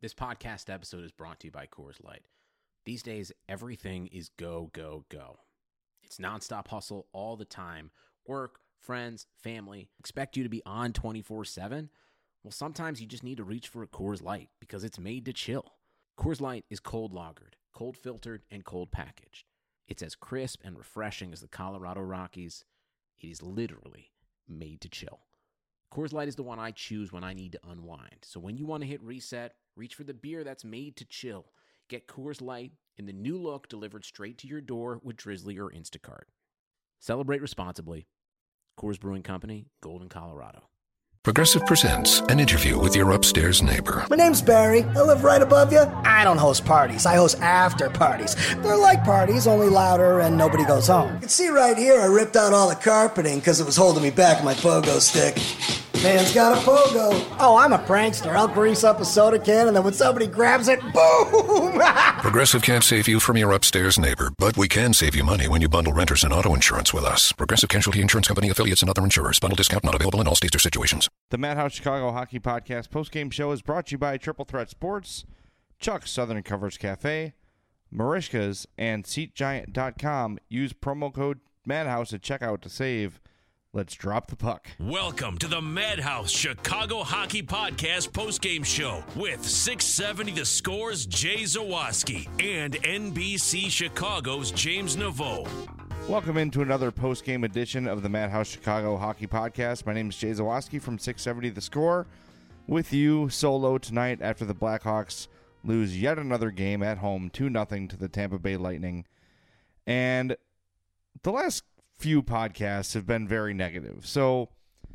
This podcast episode is brought to you by Coors Light. These days, everything is go, go, go. It's nonstop hustle all the time. Work, friends, family, expect you to be on 24/7. Well, sometimes you just need to reach for a Coors Light because it's made to chill. Coors Light is cold lagered, cold filtered, and cold packaged. It's as crisp and refreshing as the Colorado Rockies. It is literally made to chill. Coors Light is the one I choose when I need to unwind. So when you want to hit reset, reach for the beer that's made to chill. Get Coors Light in the new look delivered straight to your door with Drizzly or Instacart. Celebrate responsibly. Coors Brewing Company, Golden, Colorado. Progressive presents an interview with your upstairs neighbor. My name's Barry. I live right above you. I don't host parties. I host after parties. They're like parties, only louder and nobody goes home. You can see right here I ripped out all the carpeting because it was holding me back with my pogo stick. Man's got a pogo. Oh, I'm a prankster. I'll grease up a soda can and then when somebody grabs it, boom! Progressive can't save you from your upstairs neighbor, but we can save you money when you bundle renters and auto insurance with us. Progressive Casualty Insurance Company, affiliates, and other insurers. Bundle discount not available in all states or situations. The Madhouse Chicago Hockey Podcast postgame show is brought to you by Triple Threat Sports, Chuck's Southern Comforts Cafe, Marishka's, and SeatGiant.com. Use promo code Madhouse at checkout to save. Let's drop the puck. Welcome to the Madhouse Chicago Hockey Podcast postgame show with 670 The Score's Jay Zawaski and NBC Chicago's James Naveau. Welcome into another postgame edition of the Madhouse Chicago Hockey Podcast. My name is Jay Zawaski from 670 The Score, with you solo tonight after the Blackhawks lose yet another game at home 2-0 to the Tampa Bay Lightning. And the last few podcasts have been very negative. So,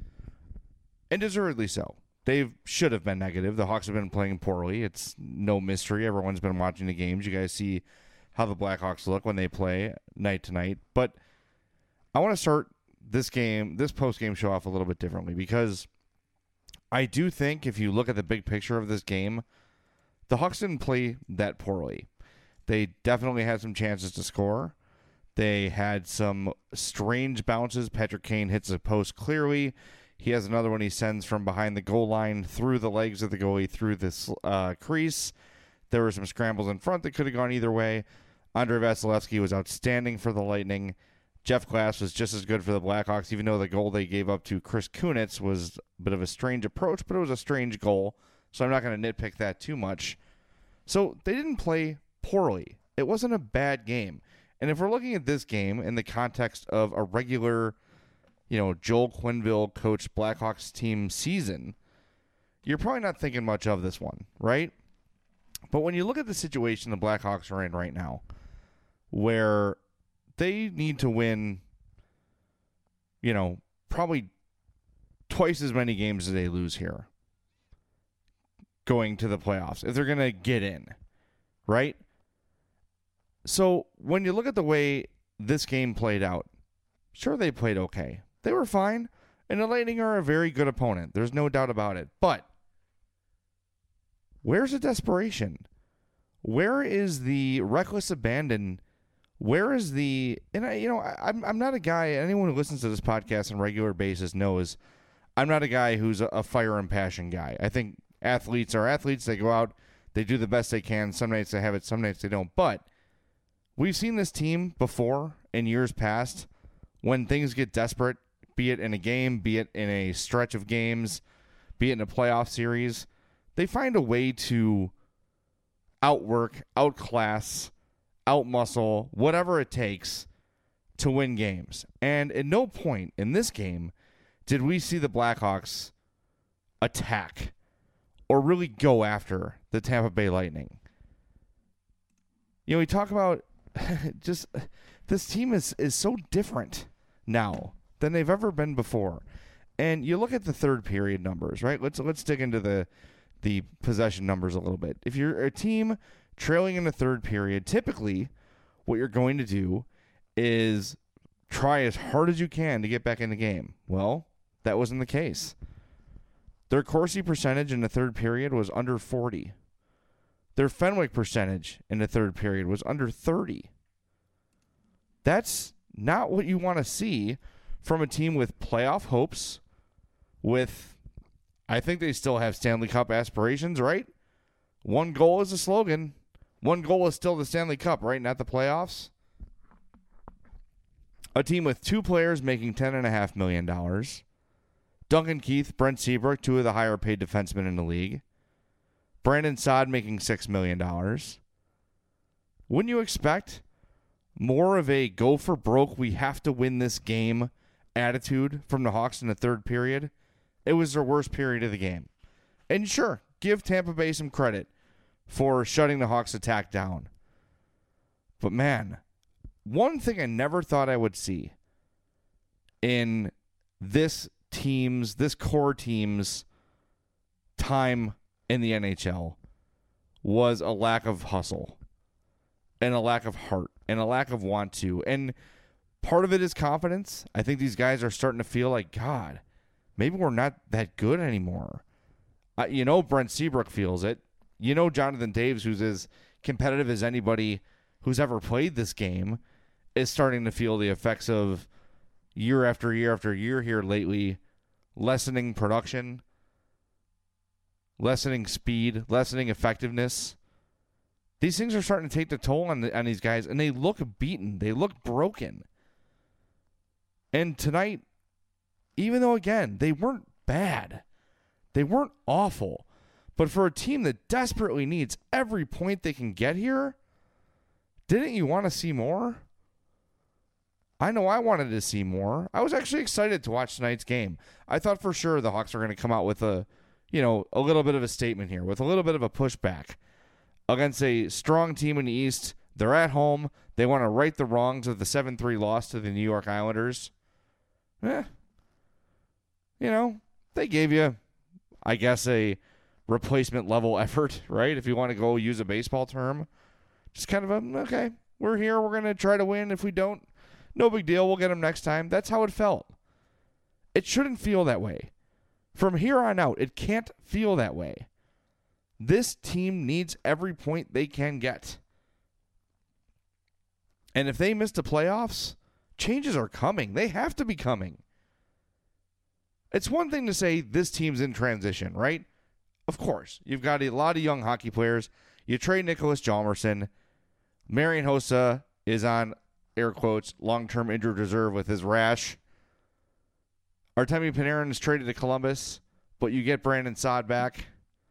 and deservedly so. They should have been negative. The Hawks have been playing poorly. It's no mystery. Everyone's been watching the games. You guys see how the Blackhawks look when they play night to night. But I want to start this post-game show off a little bit differently because I do think if you look at the big picture of this game, the Hawks didn't play that poorly. They definitely had some chances to score. They had some strange bounces. Patrick Kane hits a post clearly. He has another one he sends from behind the goal line through the legs of the goalie through this crease. There were some scrambles in front that could have gone either way. Andrei Vasilevsky was outstanding for the Lightning. Jeff Glass was just as good for the Blackhawks, even though the goal they gave up to Chris Kunitz was a bit of a strange approach, but it was a strange goal. So I'm not going to nitpick that too much. So they didn't play poorly. It wasn't a bad game. And if we're looking at this game in the context of a regular, Joel Quenneville coached Blackhawks team season, you're probably not thinking much of this one, right? But when you look at the situation the Blackhawks are in right now, where they need to win, probably twice as many games as they lose here going to the playoffs, if they're going to get in, right? So when you look at the way this game played out, sure, they played okay. They were fine, and the Lightning are a very good opponent. There's no doubt about it. But where's the desperation? Where is the reckless abandon? Where is the... And I'm not a guy... Anyone who listens to this podcast on a regular basis knows I'm not a guy who's a fire and passion guy. I think athletes are athletes. They go out, they do the best they can. Some nights they have it, some nights they don't. But we've seen this team before in years past when things get desperate, be it in a game, be it in a stretch of games, be it in a playoff series. They find a way to outwork, outclass, outmuscle, whatever it takes to win games. And at no point in this game did we see the Blackhawks attack or really go after the Tampa Bay Lightning. We talk about just this team is so different now than they've ever been before. And you look at the third period numbers, right? Let's dig into the possession numbers a little bit. If you're a team trailing in the third period, typically what you're going to do is try as hard as you can to get back in the game. Well, that wasn't the case. Their Corsi percentage in the third period was under 40. Their Fenwick percentage in the third period was under 30. That's not what you want to see from a team with playoff hopes, I think they still have Stanley Cup aspirations, right? one goal is a slogan. One goal is still the Stanley Cup, right? Not the playoffs. A team with 2 players making $10.5 million. Duncan Keith, Brent Seabrook, 2 of the higher paid defensemen in the league. Brandon Saad making $6 million. Wouldn't you expect more of a go for broke, we have to win this game attitude from the Hawks in the third period? It was their worst period of the game. And sure, give Tampa Bay some credit for shutting the Hawks' attack down. But man, one thing I never thought I would see in this core team's time in the NHL was a lack of hustle and a lack of heart and a lack of want to. And part of it is confidence. I think these guys are starting to feel like, God, maybe we're not that good anymore. Brent Seabrook feels it. Jonathan Daves, who's as competitive as anybody who's ever played this game, is starting to feel the effects of year after year after year here lately, lessening production, lessening speed, lessening effectiveness. These things are starting to take the toll on these guys, and they look beaten. They look broken. And tonight, even though, again, they weren't bad, they weren't awful, but for a team that desperately needs every point they can get here, didn't you want to see more? I know I wanted to see more. I was actually excited to watch tonight's game. I thought for sure the Hawks are going to come out with a little bit of a statement here, with a little bit of a pushback against a strong team in the East. They're at home. They want to right the wrongs of the 7-3 loss to the New York Islanders. They gave you, I guess, a replacement level effort, right? If you want to go use a baseball term. Just kind of okay, we're here. We're going to try to win. If we don't, no big deal. We'll get them next time. That's how it felt. It shouldn't feel that way. From here on out, it can't feel that way. This team needs every point they can get. And if they miss the playoffs, changes are coming. They have to be coming. It's one thing to say this team's in transition, right? Of course. You've got a lot of young hockey players. You trade Nicholas Hjalmarsson. Marian Hossa is on, air quotes, long-term injured reserve with his rash. Artemi Panarin is traded to Columbus, but you get Brandon Saad back.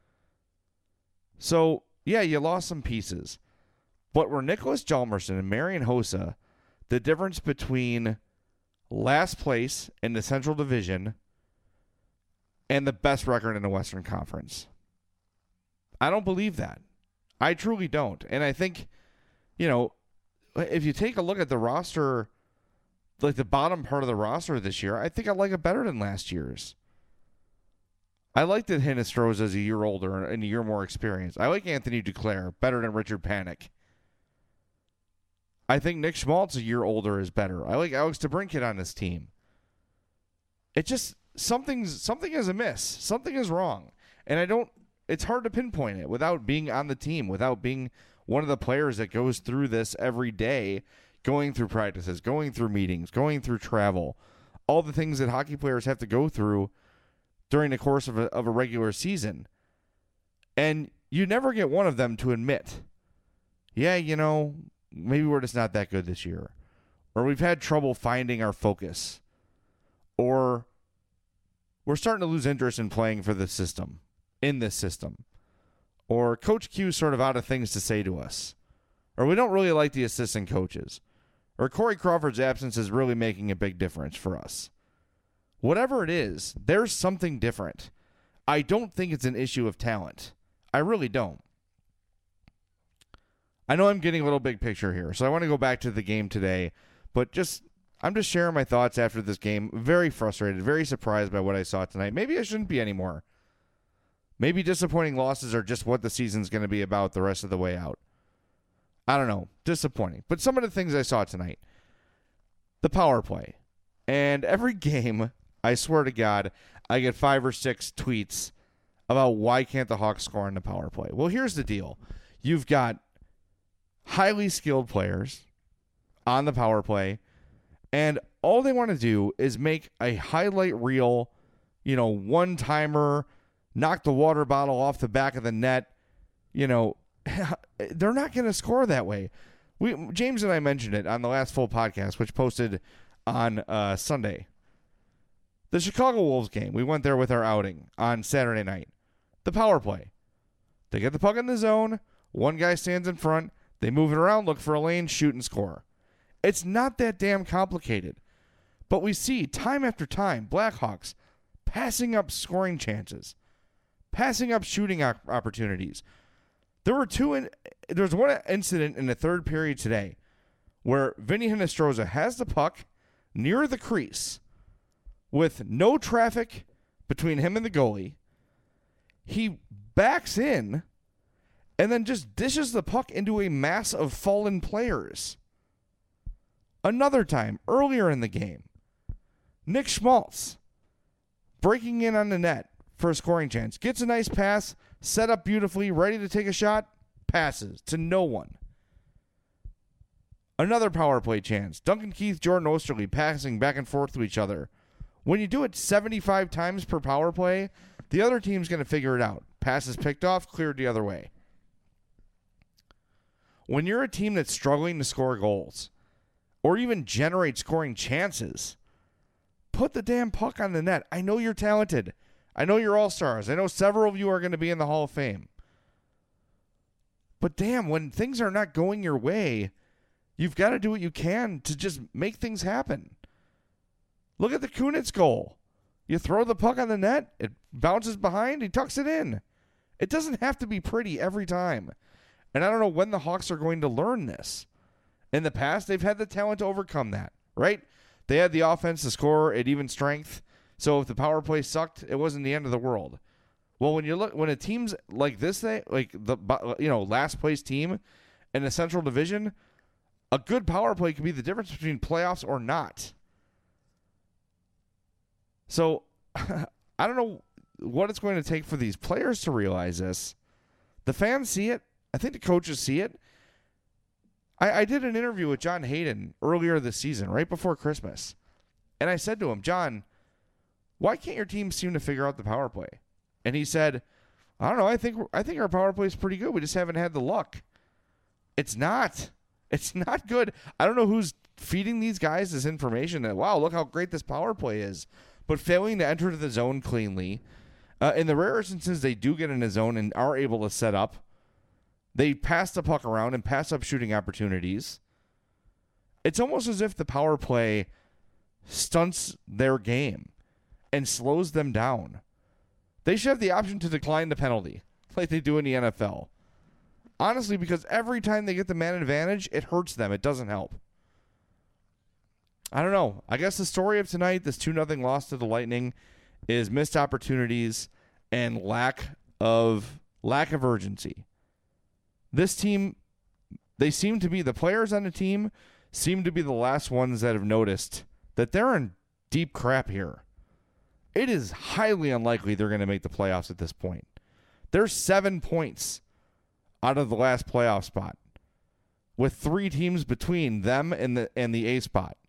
So, yeah, you lost some pieces. But were Nicholas Hjalmarsson and Marian Hossa the difference between last place in the Central Division and the best record in the Western Conference? I don't believe that. I truly don't. And I think, if you take a look at the roster, like the bottom part of the roster this year, I think I like it better than last year's. I like that Hinostroza is a year older and a year more experienced. I like Anthony Duclair better than Richard Panik. I think Nick Schmaltz, a year older, is better. I like Alex DeBrincat on this team. It just, something is amiss. Something is wrong. And it's hard to pinpoint it without being on the team, without being one of the players that goes through this every day, going through practices, going through meetings, going through travel, all the things that hockey players have to go through during the course of a regular season. And you never get one of them to admit, maybe we're just not that good this year. Or we've had trouble finding our focus. Or we're starting to lose interest in playing for the system, in this system. Or Coach Q's sort of out of things to say to us. Or we don't really like the assistant coaches. Or Corey Crawford's absence is really making a big difference for us. Whatever it is, there's something different. I don't think it's an issue of talent. I really don't. I know I'm getting a little big picture here, so I want to go back to the game today, but I'm just sharing my thoughts after this game. Very frustrated, very surprised by what I saw tonight. Maybe I shouldn't be anymore. Maybe disappointing losses are just what the season's going to be about the rest of the way out. I don't know. Disappointing. But some of the things I saw tonight. The power play. And every game, I swear to God, I get 5 or 6 tweets about why can't the Hawks score on the power play. Well, here's the deal. You've got highly skilled players on the power play, and all they want to do is make a highlight reel, one-timer, knock the water bottle off the back of the net, they're not going to score that way. James and I mentioned it on the last full podcast, which posted on Sunday. The Chicago Wolves game, we went there with our outing on Saturday night. The power play. They get the puck in the zone. One guy stands in front. They move it around, look for a lane, shoot, and score. It's not that damn complicated. But we see time after time Blackhawks passing up scoring chances, passing up shooting opportunities. There was one incident in the third period today where Vinny Hinostroza has the puck near the crease with no traffic between him and the goalie. He backs in and then just dishes the puck into a mass of fallen players. Another time, earlier in the game, Nick Schmaltz breaking in on the net for a scoring chance. Gets a nice pass, set up beautifully, ready to take a shot, passes to no one. Another power play chance. Duncan Keith, Jordan Osterley passing back and forth to each other. When you do it 75 times per power play, the other team's going to figure it out. Passes picked off, cleared the other way. When you're a team that's struggling to score goals or even generate scoring chances, put the damn puck on the net. I know you're talented. I know you're all-stars. I know several of you are going to be in the Hall of Fame. But damn, when things are not going your way, you've got to do what you can to just make things happen. Look at the Kunitz goal. You throw the puck on the net, it bounces behind, he tucks it in. It doesn't have to be pretty every time. And I don't know when the Hawks are going to learn this. In the past, they've had the talent to overcome that, right? They had the offense to score at even strength. So if the power play sucked, it wasn't the end of the world. Well, when a team's like this, like the last place team in the Central Division, a good power play could be the difference between playoffs or not. So I don't know what it's going to take for these players to realize this. The fans see it. I think the coaches see it. I did an interview with John Hayden earlier this season, right before Christmas. And I said to him, John, why can't your team seem to figure out the power play? And he said, I don't know. I think our power play is pretty good. We just haven't had the luck. It's not. It's not good. I don't know who's feeding these guys this information that, wow, look how great this power play is. But failing to enter the zone cleanly. In the rare instances they do get in the zone and are able to set up, they pass the puck around and pass up shooting opportunities. It's almost as if the power play stunts their game and slows them down. They should have the option to decline the penalty like they do in the NFL. Honestly, because every time they get the man advantage, it hurts them. It doesn't help. I don't know. I guess the story of tonight, this 2-0 loss to the Lightning, is missed opportunities and lack of urgency. This team, the players on the team seem to be the last ones that have noticed that they're in deep crap here. It is highly unlikely they're going to make the playoffs at this point. They're 7 points out of the last playoff spot, with 3 teams between them and the A spot.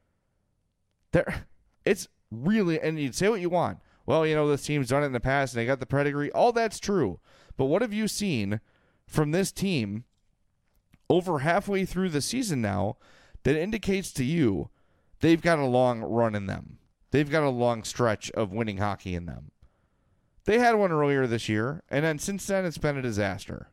It's really, and you'd say what you want. Well, this team's done it in the past and they got the pedigree. All that's true. But what have you seen from this team over halfway through the season now that indicates to you they've got a long run in them? They've got a long stretch of winning hockey in them. They had one earlier this year, and then since then it's been a disaster.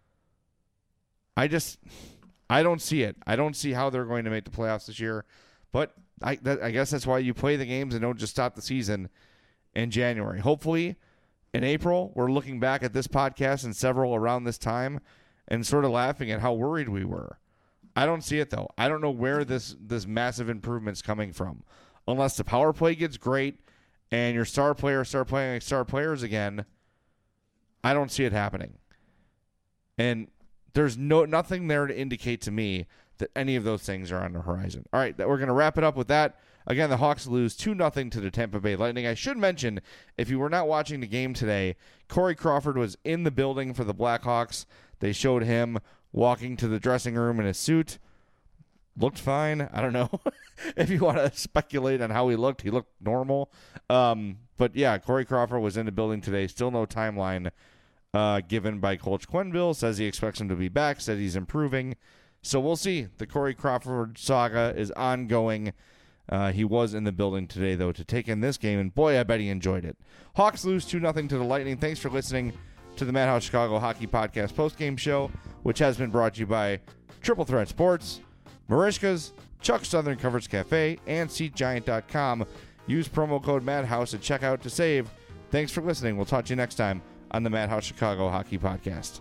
I don't see it. I don't see how they're going to make the playoffs this year. But I guess that's why you play the games and don't just stop the season in January. Hopefully, in April, we're looking back at this podcast and several around this time and sort of laughing at how worried we were. I don't see it, though. I don't know where this massive improvement's coming from. Unless the power play gets great and your star players start playing like star players again, I don't see it happening. And there's nothing there to indicate to me that any of those things are on the horizon. All right, we're going to wrap it up with that. Again, the Hawks lose 2-0 to the Tampa Bay Lightning. I should mention, if you were not watching the game today, Corey Crawford was in the building for the Blackhawks. They showed him walking to the dressing room in a suit. Looked fine. I don't know if you want to speculate on how he looked. He looked normal. But yeah, Corey Crawford was in the building today. Still no timeline given by Coach Quenneville. Says he expects him to be back, said he's improving. So we'll see. The Corey Crawford saga is ongoing. He was in the building today, though, to take in this game, and boy, I bet he enjoyed it. Hawks lose 2-0 to the Lightning. Thanks for listening to the Madhouse Chicago Hockey Podcast postgame show, which has been brought to you by Triple Threat Sports, Marishka's, Chuck Southern Comforts Cafe, and SeatGiant.com. Use promo code Madhouse at checkout to save. Thanks for listening. We'll talk to you next time on the Madhouse Chicago Hockey Podcast.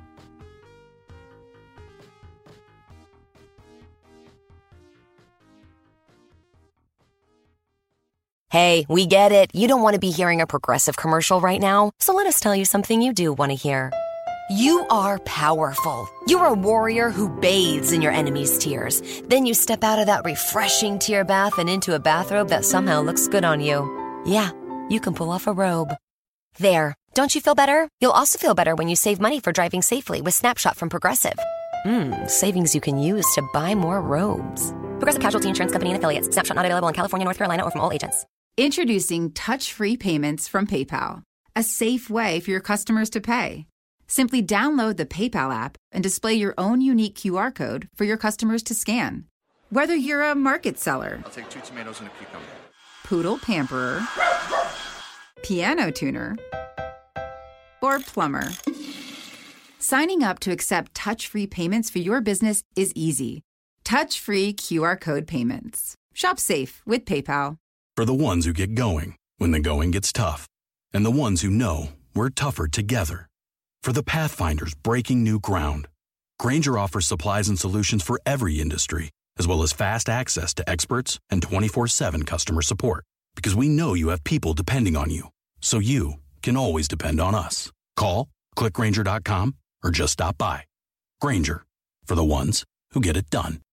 Hey, we get it. You don't want to be hearing a Progressive commercial right now, so let us tell you something you do want to hear. You are powerful. You're a warrior who bathes in your enemy's tears. Then you step out of that refreshing tear bath and into a bathrobe that somehow looks good on you. Yeah, you can pull off a robe. There. Don't you feel better? You'll also feel better when you save money for driving safely with Snapshot from Progressive. Savings you can use to buy more robes. Progressive Casualty Insurance Company and Affiliates. Snapshot not available in California, North Carolina, or from all agents. Introducing touch-free payments from PayPal, a safe way for your customers to pay. Simply download the PayPal app and display your own unique QR code for your customers to scan. Whether you're a market seller, I'll take 2 tomatoes and a cucumber, poodle pamperer, piano tuner, or plumber. Signing up to accept touch-free payments for your business is easy. Touch-free QR code payments. Shop safe with PayPal. For the ones who get going when the going gets tough, and the ones who know we're tougher together. For the Pathfinders breaking new ground, Grainger offers supplies and solutions for every industry, as well as fast access to experts and 24/7 customer support. Because we know you have people depending on you, so you can always depend on us. Call, click Grainger.com, or just stop by. Grainger, for the ones who get it done.